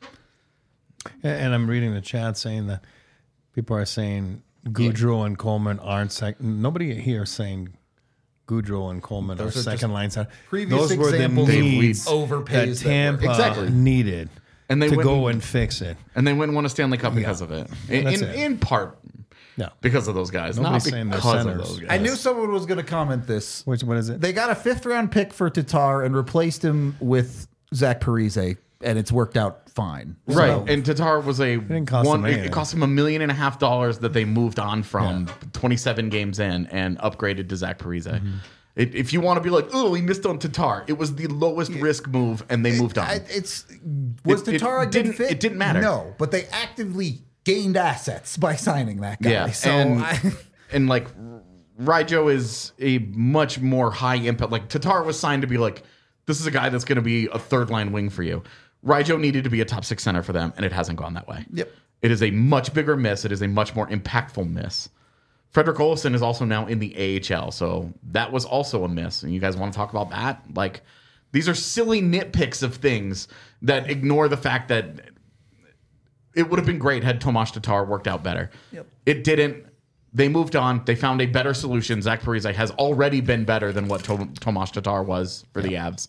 And I'm reading the chat saying that people are saying Goudreau and Coleman aren't second. Nobody here is saying Goudreau and Coleman are second line center. Previous Those were the examples needs overpays that Tampa Exactly. needed And they to went go and- and fix it. And they wouldn't win a Stanley Cup because of it. That's it. In part Yeah. because of those guys, Nobody's not saying they're because of centers. those guys. I knew someone was going to comment this. What is it? They got a 5th round pick for Tatar and replaced him with Zach Parise, and it's worked out fine. Right, So- and Tatar was didn't cost them anything. it cost him $1.5 million that they moved on from 27 games in and upgraded to Zach Parise. Mm-hmm. If you want to be like, oh, he missed on Tatar, it was the lowest risk move, and they moved on. Was It Tatar a good didn't- fit? it didn't matter. No, but they actively gained assets by signing that guy. Yeah, So and like Ryjo is a much more high impact. Like Tatar was signed to be like, this is a guy that's going to be a 3rd line wing for you. Ryjo needed to be a top 6 center for them, and it hasn't gone that way. Yep. It is a much bigger miss. It is a much more impactful miss. Frederick Olofsson is also now in the AHL, so that was also a miss. And you guys want to talk about that? Like, these are silly nitpicks of things that ignore the fact that it would have been great had Tomas Tatar worked out better. Yep. It didn't. They moved on. They found a better solution. Zach Parise has already been better than what Tomas Tatar was for the Avs.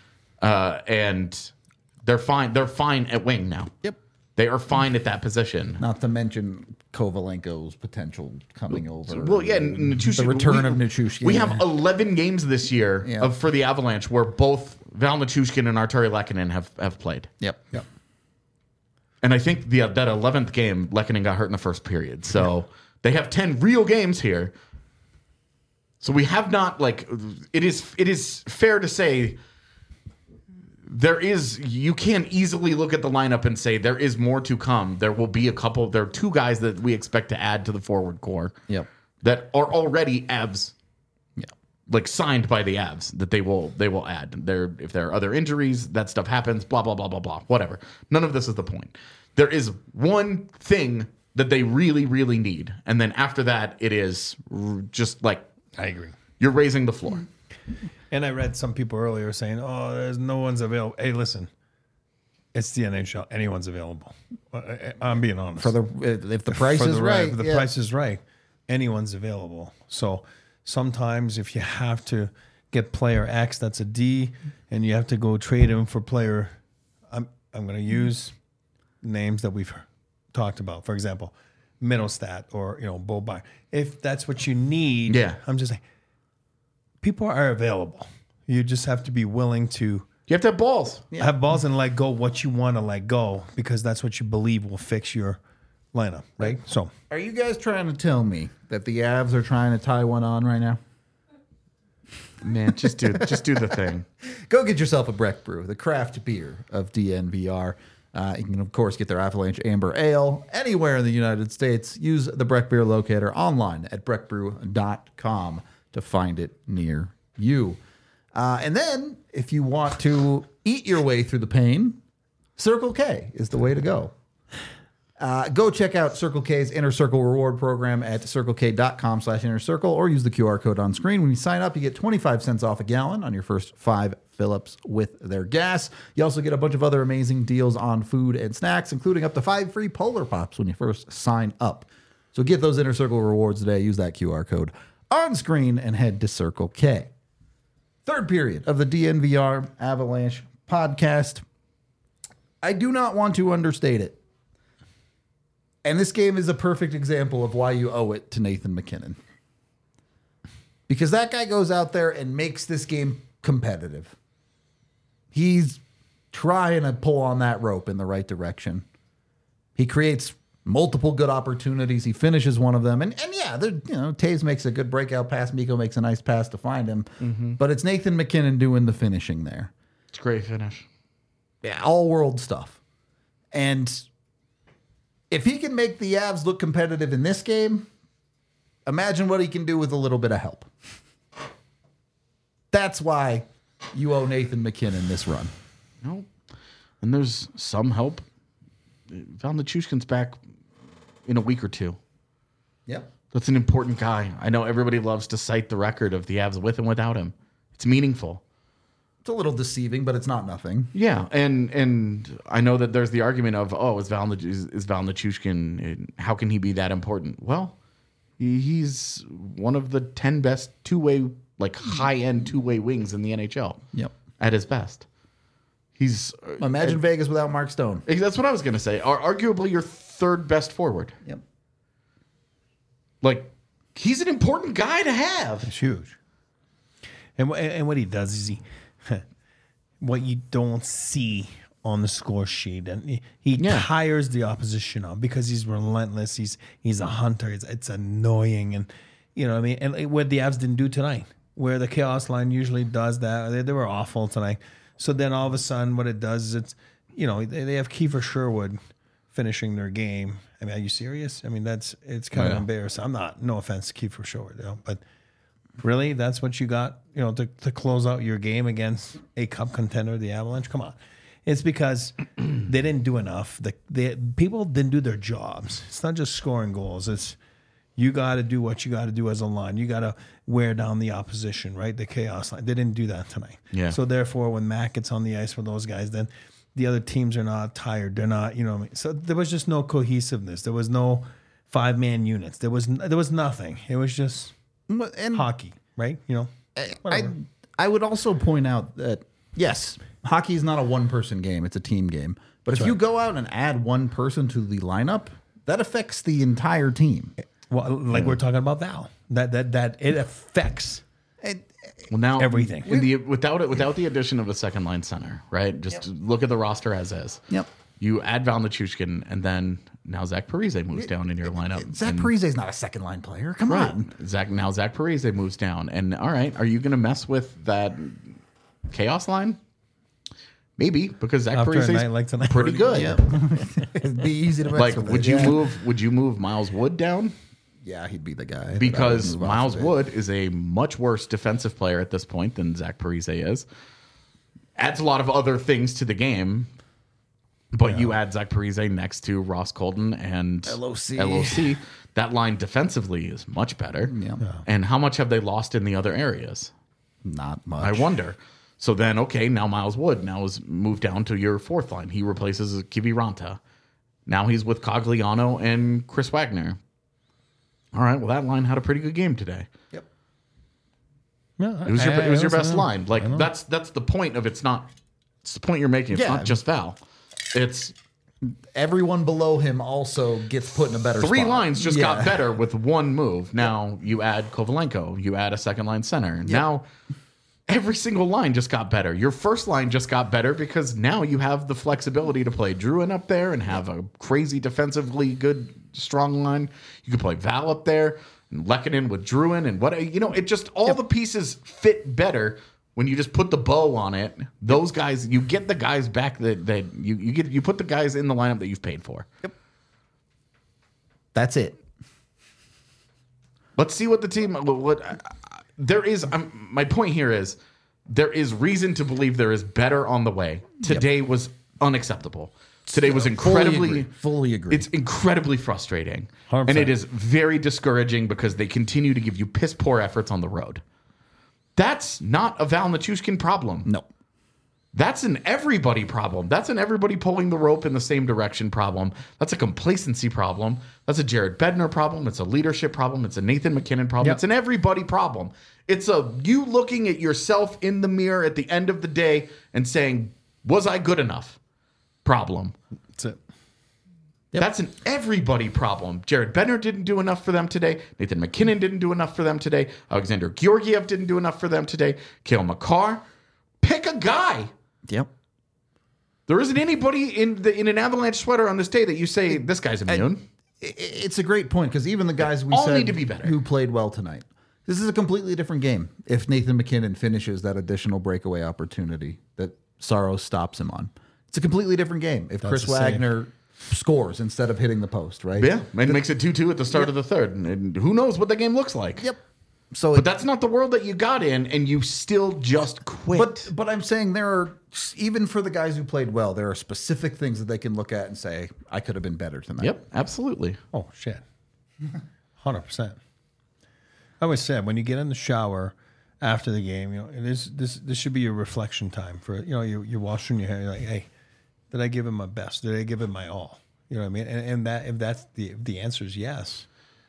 And they're fine. They're fine at wing now. Yep. They are fine at that position. Not to mention Kovalenko's potential coming over. Well, yeah, Nichushkin, the return of Nichushkin. We have 11 games this year Yeah. for the Avalanche where both Val Nichushkin and Arturi Lehkonen have played. Yep. And I think that 11th game, Lehkonen got hurt in the first period. So They have 10 real games here. So we have not, like, it is fair to say you can easily look at the lineup and say there is more to come. There will be there are 2 guys that we expect to add to the forward core. Yep. That are already Avs. Yeah. Like signed by the Avs that they will add. If there are other injuries, that stuff happens, blah, blah, blah, blah, blah, whatever. None of this is the point. There is one thing that they really, really need. And then after that, it is just like, I agree. You're raising the floor. And I read some people earlier saying, "Oh, there's no one's available." Hey, listen, it's the NHL. Anyone's available. I'm being honest. If the price is right, if the price is right, anyone's available. So sometimes if you have to get player X, that's a D, and you have to go trade him for player. I'm going to use names that we've talked about. For example, Middlestat or Bo Byer. If that's what you need, I'm just saying. People are available. You just have to be willing to. You have to have balls. Have balls and let go what you want to let go, because that's what you believe will fix your lineup, right? So, are you guys trying to tell me that the Avs are trying to tie one on right now? Man, just do the thing. Go get yourself a Breck Brew, the craft beer of DNVR. You can, of course, get their Avalanche Amber Ale anywhere in the United States. Use the Breck Beer locator online at breckbrew.com to find it near you. And then, if you want to eat your way through the pain, Circle K is the way to go. Go check out Circle K's Inner Circle reward program at circlek.com/innercircle, or use the QR code on screen. When you sign up, you get 25 cents off a gallon on your first 5 fill-ups with their gas. You also get a bunch of other amazing deals on food and snacks, including up to 5 free Polar Pops when you first sign up. So get those Inner Circle rewards today. Use that QR code on screen and head to Circle K. Third period of the DNVR Avalanche podcast. I do not want to understate it. And this game is a perfect example of why you owe it to Nathan MacKinnon. Because that guy goes out there and makes this game competitive. He's trying to pull on that rope in the right direction. He creates multiple good opportunities. He finishes one of them. And yeah, Taves makes a good breakout pass. Mikko makes a nice pass to find him. Mm-hmm. But it's Nathan MacKinnon doing the finishing there. It's a great finish. Yeah, all world stuff. And if he can make the Avs look competitive in this game, imagine what he can do with a little bit of help. That's why you owe Nathan MacKinnon this run. No. And there's some help. Val Nichushkin's back in a week or two. Yep. That's an important guy. I know everybody loves to cite the record of the Avs with and without him. It's meaningful. It's a little deceiving, but it's not nothing. Yeah, and I know that there's the argument of, is Val Nichushkin, how can he be that important? Well, he's one of the 10 best two-way, like high-end two-way wings in the NHL. Yep. At his best. He's imagine Vegas without Mark Stone. That's what I was going to say. Arguably your third best forward. Yep. Like, he's an important guy to have. It's huge. And what he does is what you don't see on the score sheet, and he tires the opposition on because he's relentless. He's a hunter. It's annoying, and you know what I mean. And what the Avs didn't do tonight, where the chaos line usually does that, they were awful tonight. So then all of a sudden, what it does is they have Kiefer Sherwood finishing their game. I mean, are you serious? I mean, it's kind of embarrassing. I'm not. No offense to Kiefer Sherwood, but. Really? That's what you got, to close out your game against a cup contender, the Avalanche? Come on. It's because they didn't do enough. People didn't do their jobs. It's not just scoring goals. It's you got to do what you got to do as a line. You got to wear down the opposition, right? The chaos line. They didn't do that tonight. Yeah. So therefore, when Mac gets on the ice with those guys, then the other teams are not tired. They're not, what I mean? So there was just no cohesiveness. There was no 5-man units. There was nothing. It was just... And hockey, right? I would also point out that, yes, hockey is not a one-person game. It's a team game. But if you go out and add one person to the lineup, that affects the entire team. Well, like we're talking about Val. That it affects everything. Without the addition of a second-line center, right? Just look at the roster as is. Yep. You add Val Nichushkin, and then now Zach Parise moves down in your lineup. Zach Parise's not a second line player. Come Right. on. Zach Parise moves down. And all right, are you going to mess with that chaos line? Maybe, because Zach After a Parise night like tonight. pretty good. It'd be easy to mess Like, with would it. you move Miles Wood down? Yeah, he'd be the guy. that I would Because move off Miles of it. Wood is a much worse defensive player at this point than Zach Parise is. Adds a lot of other things to the game, but you add Zach Parise next to Ross Colton and LOC. That line defensively is much better. Yeah. And how much have they lost in the other areas? Not much. I wonder. So then, okay, now Miles Wood now is moved down to your fourth line. He replaces Kiviranta. Now he's with Cogliano and Chris Wagner. All right, well, that line had a pretty good game today. Yep. Yeah, It was your best I line. Like know. that's the point of it's the point you're making. It's Yeah. not just Val. It's Everyone below him also gets put in a better three spot. lines just Yeah. got better with one move. Now you add Kovalenko, you add a second line center. Now every single line just got better. Your first line just got better because now you have the flexibility to play Druin up there and have a crazy defensively good strong line. You could play Val up there and Lehkonen with Druin and it just all the pieces fit better when you just put the bow on it. Those guys, you get the guys back that you put the guys in the lineup that you've paid for. That's it. Let's see what the team. There is. My point here is there is reason to believe there is better on the way. Today was unacceptable. Today was incredibly. Fully agree. It's incredibly frustrating, 100%. and it is very discouraging because they continue to give you piss poor efforts on the road. That's not a Val Nichushkin problem. No. That's an everybody problem. That's an everybody pulling the rope in the same direction problem. That's a complacency problem. That's a Jared Bednar problem. It's a leadership problem. It's a Nathan McKinnon problem. Yep. It's an everybody problem. It's a you looking at yourself in the mirror at the end of the day and saying, was I good enough? Problem. That's it. That's an everybody problem. Jared Bednar didn't do enough for them today. Nathan McKinnon didn't do enough for them today. Alexander Georgiev didn't do enough for them today. Cale Makar. Pick a guy. Yep. There isn't anybody in an Avalanche sweater on this day that you say this guy's immune. It's a great point because even the guys we All said need to be better. who played well tonight. This is a completely different game if Nathan McKinnon finishes that additional breakaway opportunity that Saros stops him on. It's a completely different game if Chris the same. Wagner scores instead of hitting the post, right? Yeah, and makes it 2-2 at the start of the third. And who knows what the game looks like. Yep. So But that's not the world that you got in, and you still just quit. But I'm saying there are, even for the guys who played well, there are specific things that they can look at and say, I could have been better tonight. Yep, absolutely. Oh shit, 100%. I always said when you get in the shower after the game, this should be your reflection time for you're washing your hair. You're like, hey, did I give it my best? Did I give it my all? You know what I mean? And that if that's the answer is yes,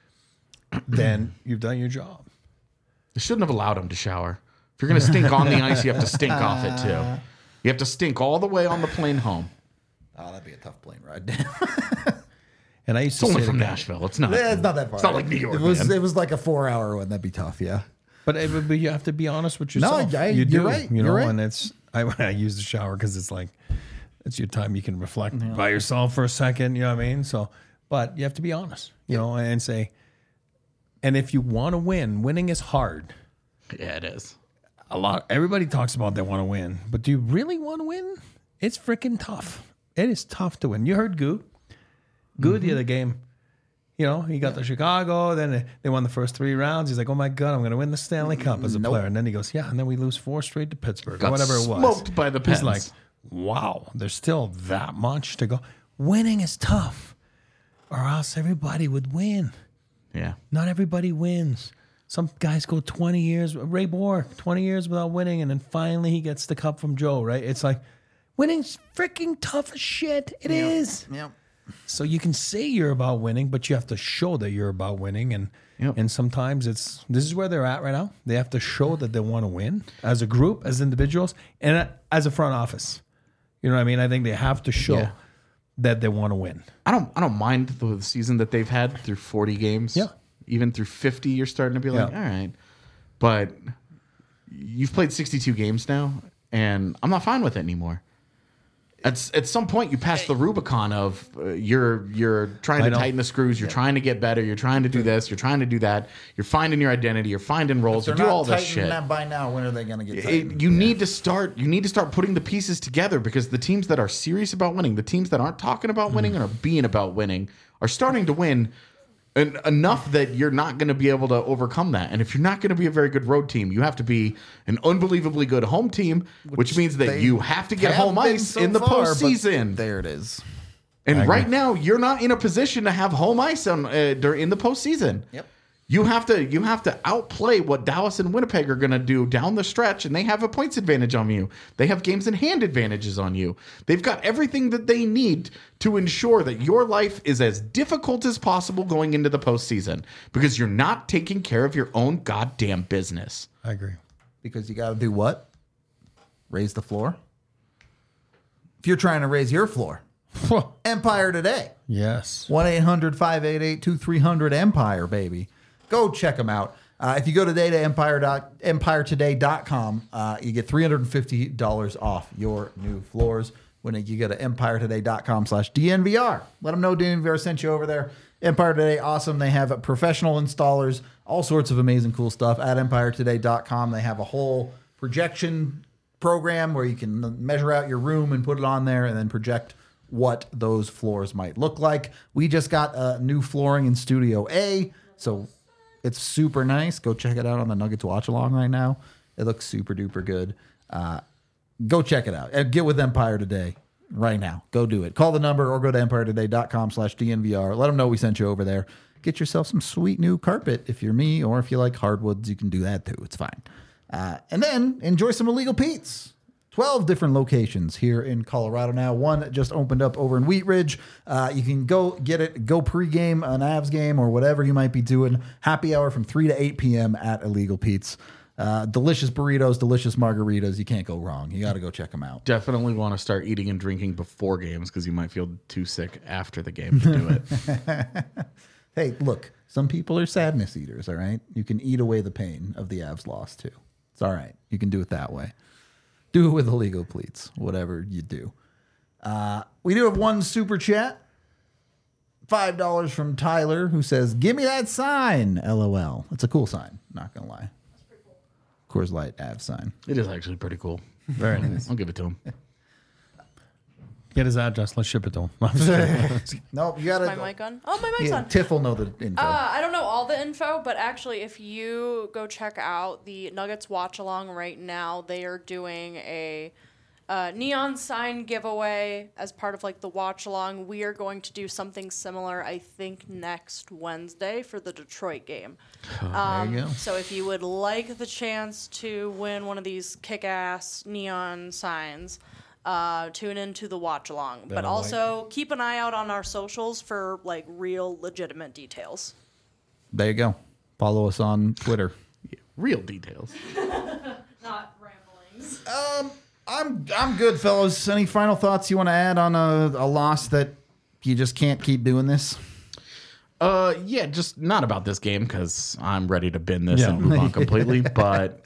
then you've done your job. You shouldn't have allowed him to shower. If you're going to stink on the ice, you have to stink off it too. You have to stink all the way on the plane home. Oh, that'd be a tough plane ride. And I used It's to only say from to guys- Nashville. It's not. It's not that far. It's not like New York. It was man. it was like a 4-hour one. That'd be tough. Yeah. But you have to be honest with No, yourself. you're you do, right. You know, You're right. and it's I use the shower because it's like it's your time you can reflect by yourself for a second. You know what I mean? So, but you have to be honest. You know, and say, and if you want to win, winning is hard. Yeah, it is. Everybody talks about they want to win, but do you really want to win? It's freaking tough. It is tough to win. You heard Goo the other game. You know, he got to Chicago, then they won the first 3 rounds. He's like, oh my God, I'm going to win the Stanley Cup as a player. And then he goes, yeah, and then we lose 4 straight to Pittsburgh Got or whatever it was. smoked by the Pens. He's like, wow, there's still that much to go. Winning is tough, or else everybody would win. Yeah. Not everybody wins. Some guys go 20 years. Ray Bourque, 20 years without winning, and then finally he gets the cup from Joe, right? It's like, winning's freaking tough as shit. It is. Yep. So you can say you're about winning, but you have to show that you're about winning. And sometimes this is where they're at right now. They have to show that they want to win as a group, as individuals, and as a front office. You know what I mean? I think they have to show that they want to win. I don't mind the season that they've had through 40 games. Yeah. Even through 50, you're starting to be like, all right. But you've played 62 games now, and I'm not fine with it anymore. At some point, you pass the Rubicon of you're trying to tighten the screws, you're trying to get better, you're trying to do this, you're trying to do that, you're finding your identity, you're finding roles, you do all this shit. That by now, when are they going to get tightened? You need to start putting the pieces together, because the teams that are serious about winning, the teams that aren't talking about winning and are being about winning, are starting to win. And enough that you're not going to be able to overcome that. And if you're not going to be a very good road team, you have to be an unbelievably good home team, which means that you have to get home ice in the postseason. There it is. And right now, you're not in a position to have home ice in the postseason. Yep. You have to outplay what Dallas and Winnipeg are going to do down the stretch, and they have a points advantage on you. They have games in hand advantages on you. They've got everything that they need to ensure that your life is as difficult as possible going into the postseason, because you're not taking care of your own goddamn business. I agree. Because you got to do what? Raise the floor? If you're trying to raise your floor, Empire Today. Yes. 1-800-588-2300 Empire, baby. Go check them out. If you go today to empiretoday.com, you get $350 off your new floors when you go to empiretoday.com/DNVR. Let them know DNVR sent you over there. Empire Today, awesome. They have professional installers, all sorts of amazing cool stuff at empiretoday.com. They have a whole projection program where you can measure out your room and put it on there and then project what those floors might look like. We just got new flooring in Studio A, so it's super nice. Go check it out on the Nuggets watch along right now. It looks super duper good. Go check it out. And get with Empire Today right now. Go do it. Call the number or go to empiretoday.com/DNVR. Let them know we sent you over there. Get yourself some sweet new carpet if you're me, or if you like hardwoods, you can do that too. It's fine. And then enjoy some Illegal Pete's. 12 different locations here in Colorado now. One just opened up over in Wheat Ridge. You can go get it, go pregame an Avs game or whatever you might be doing. Happy hour from 3 to 8 p.m. at Illegal Pete's. Delicious burritos, delicious margaritas. You can't go wrong. You got to go check them out. Definitely want to start eating and drinking before games, because you might feel too sick after the game to do it. Hey, look, some people are sadness eaters, all right? You can eat away the pain of the Avs loss too. It's all right. You can do it that way. Do it with Illegal Pleats, whatever you do. We do have one super chat. $5 from Tyler, who says, "Give me that sign, LOL." It's a cool sign, not going to lie. That's pretty cool. Coors Light Avs sign. It is actually pretty cool. Very nice. I'll give it to him. Get his address. Let's ship it to him. No, you got to. My mic on? Oh, my mic's on. Tiff will know the info. I don't know all the info, but actually, if you go check out the Nuggets watch along right now, they are doing a neon sign giveaway as part of like the watch along. We are going to do something similar, I think, next Wednesday for the Detroit game. There you go. So if you would like the chance to win one of these kick-ass neon signs, tune into the watch along, but also keep an eye out on our socials for like real legitimate details. There you go. Follow us on Twitter. Real details. Not ramblings. I'm good, fellows. Any final thoughts you want to add on a loss that you just can't keep doing this? Yeah, just not about this game, because I'm ready to bin this and move on completely. But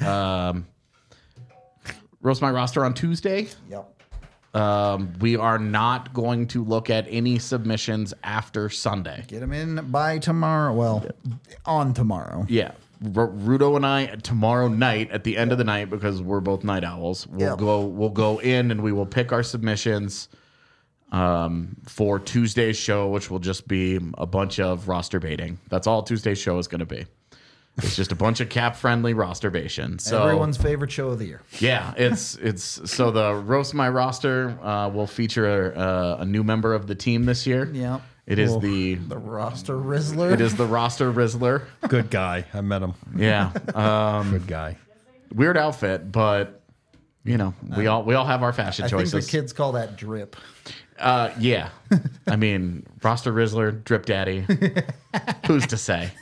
roast my roster on Tuesday. Yep. We are not going to look at any submissions after Sunday. Get them in by tomorrow. Well, on tomorrow. Yeah. Rudo and I tomorrow night at the end of the night, because we're both night owls, we'll go in and we will pick our submissions for Tuesday's show, which will just be a bunch of roster baiting. That's all Tuesday's show is going to be. It's just a bunch of cap-friendly rosterbation. So everyone's favorite show of the year. Yeah, it's so the roast my roster will feature a new member of the team this year. Yeah, it is the roster Rizzler. It is the roster Rizzler. Good guy. I met him. Yeah, good guy. Weird outfit, but you know we all have our fashion choices. I think the kids call that drip. Yeah, I mean roster Rizzler, drip daddy. Who's to say?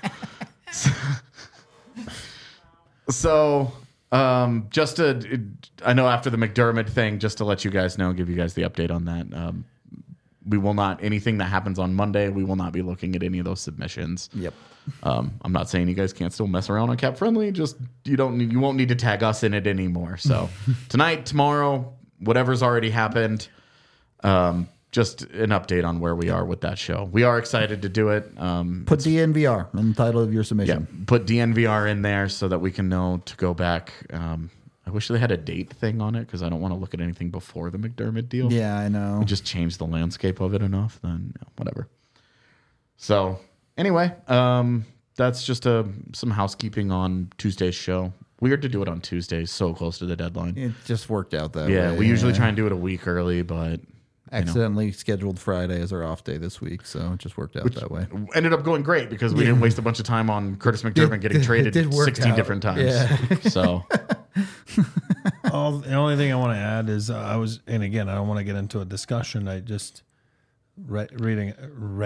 So, just I know after the McDermott thing, just to let you guys know, give you guys the update on that. We will not, anything that happens on Monday, we will not be looking at any of those submissions. Yep. I'm not saying you guys can't still mess around on Cap Friendly, just you won't need to tag us in it anymore. So tonight, tomorrow, whatever's already happened, just an update on where we are with that show. We are excited to do it. Put DNVR in the title of your Yeah, submission. put DNVR in there so that we can know to go back. I wish they had a date thing on it because I don't want to look at anything before the McDermott deal. Yeah, I know. We just changed the landscape of it enough, then whatever. So anyway, that's just some housekeeping on Tuesday's show. Weird to do it on Tuesdays, so close to the deadline. It just worked out that Yeah, way. we usually try and do it a week early, but accidentally scheduled Friday as our off day this week, so it just worked out that way. ended up going great because we didn't waste a bunch of time on Curtis McDermott getting traded did work 16 out. different times. Yeah. So The only thing I want to add is and again, I don't want to get into a discussion. I just Reading,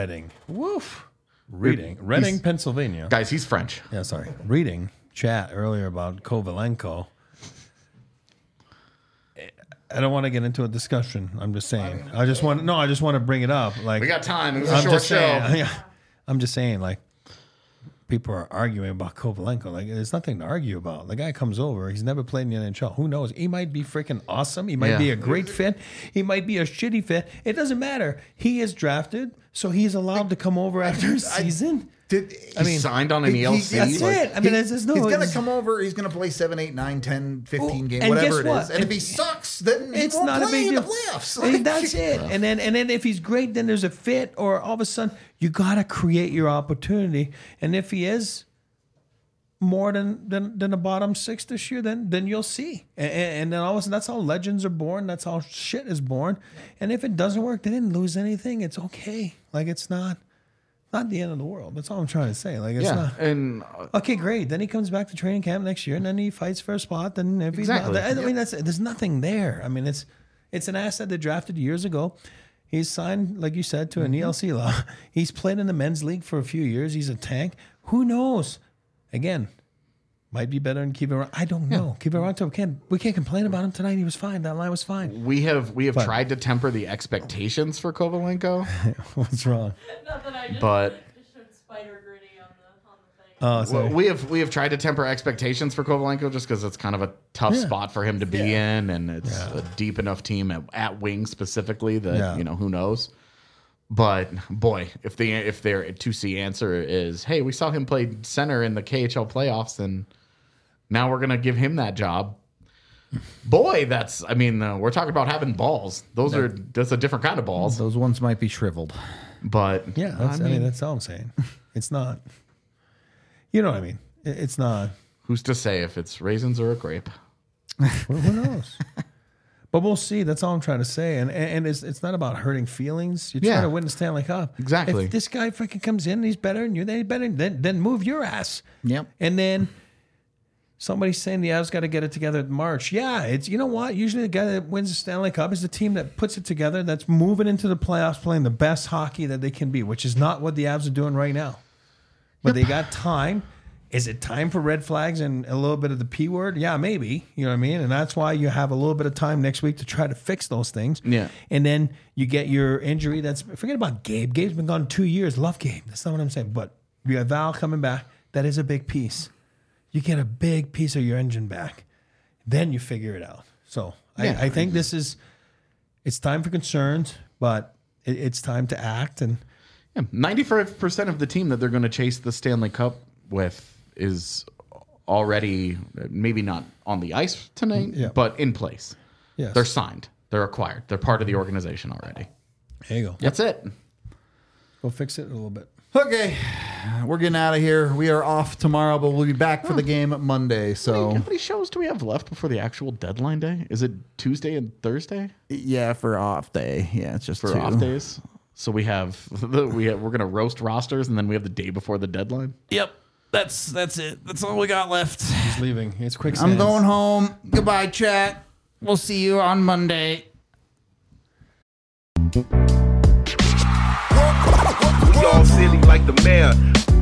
Pennsylvania. guys, he's French. Yeah, sorry. Reading chat earlier about Kovalenko. I don't want to get into a discussion. I'm just saying. I just want to bring it up. Like, We got time. It was a I'm short just show. saying. Yeah, I'm just saying. Like, people are arguing about Kovalenko. Like, there's nothing to argue about. The guy comes over. He's never played in the NHL. Who knows? He might be freaking awesome. He might be a great fit. He might be a shitty fit. It doesn't matter. He is drafted, so he's allowed to come over after a season. He signed on an ELC. That's it. I mean, there's no. He's going to it's- come over. He's going to play 7, 8, 9, 10, 15 games, and whatever guess it what? is. And if he sucks, then he It's won't not a play big in the deal. playoffs. And that's it. And then if he's great, then there's a fit, or all of a sudden you got to create your opportunity. And if he is more than the bottom 6 this year, then you'll see. And then all of a sudden, that's how legends are born. That's how shit is born. And if it doesn't work, they didn't lose anything. It's okay. Like, it's not the end of the world. That's all I'm trying to say. Like, it's not. And Okay, great. Then he comes back to training camp next year, and then he fights for a spot. Then if he's Exactly. not, I mean, there's nothing there. I mean, it's an asset they drafted years ago. He's signed, like you said, to an ELC law. He's played in the men's league for a few years. He's a tank. Who knows? Again, might be better than Kiviranta. I don't know. Kiviranta, we can't complain about him tonight. He was fine. That line was fine. we have tried to temper the expectations for Kovalenko, What's wrong? Not that I just, but just showed Spider Gritty on the thing. Oh, sorry. we have tried to temper expectations for Kovalenko just because it's kind of a tough spot for him to be in, and it's a deep enough team at wing specifically that who knows. But boy, if their 2C answer is, hey, we saw him play center in the KHL playoffs, and now we're gonna give him that job. Boy, we're talking about having balls. That's a different kind of balls. Those ones might be shriveled. But Yeah, that's all I'm saying. It's not. You know what I mean? It's not. who's to say if it's raisins or a grape? Well, who knows? But we'll see. That's all I'm trying to say. And it's not about hurting feelings. You're trying to win the Stanley Cup. Exactly. If this guy freaking comes in and he's better than you, then he's better. Then move your ass. Yep. And then somebody's saying the Avs got to get it together in March. Yeah, it's, you know what? Usually the guy that wins the Stanley Cup is the team that puts it together, that's moving into the playoffs, playing the best hockey that they can be, which is not what the Avs are doing right now. But they got time. Is it time for red flags and a little bit of the P word? Yeah, maybe. You know what I mean? And that's why you have a little bit of time next week to try to fix those things. Yeah. And then you get your injury. Forget about Gabe. Gabe's been gone 2 years. Love Gabe. That's not what I'm saying. But you got Val coming back. That is a big piece. You get a big piece of your engine back. Then you figure it out. So I think it's time for concerns, but it's time to act. And 95% of the team that they're going to chase the Stanley Cup with is already maybe not on the ice tonight, but in place. yes. They're signed. They're acquired. They're part of the organization already. There you go. That's it. Go fix it a little bit. Okay, we're getting out of here. We are off tomorrow, but we'll be back for the game Monday. So How many shows do we have left before the actual deadline day? Is it Tuesday and Thursday yeah, for off day. Yeah, it's just for 2. off days? So we're going to roast rosters, and then we have the day before the deadline. Yep, that's it. That's all we got left. He's leaving. It's quick. I'm going home. Goodbye, chat. We'll see you on Monday. We all silly like the mayor.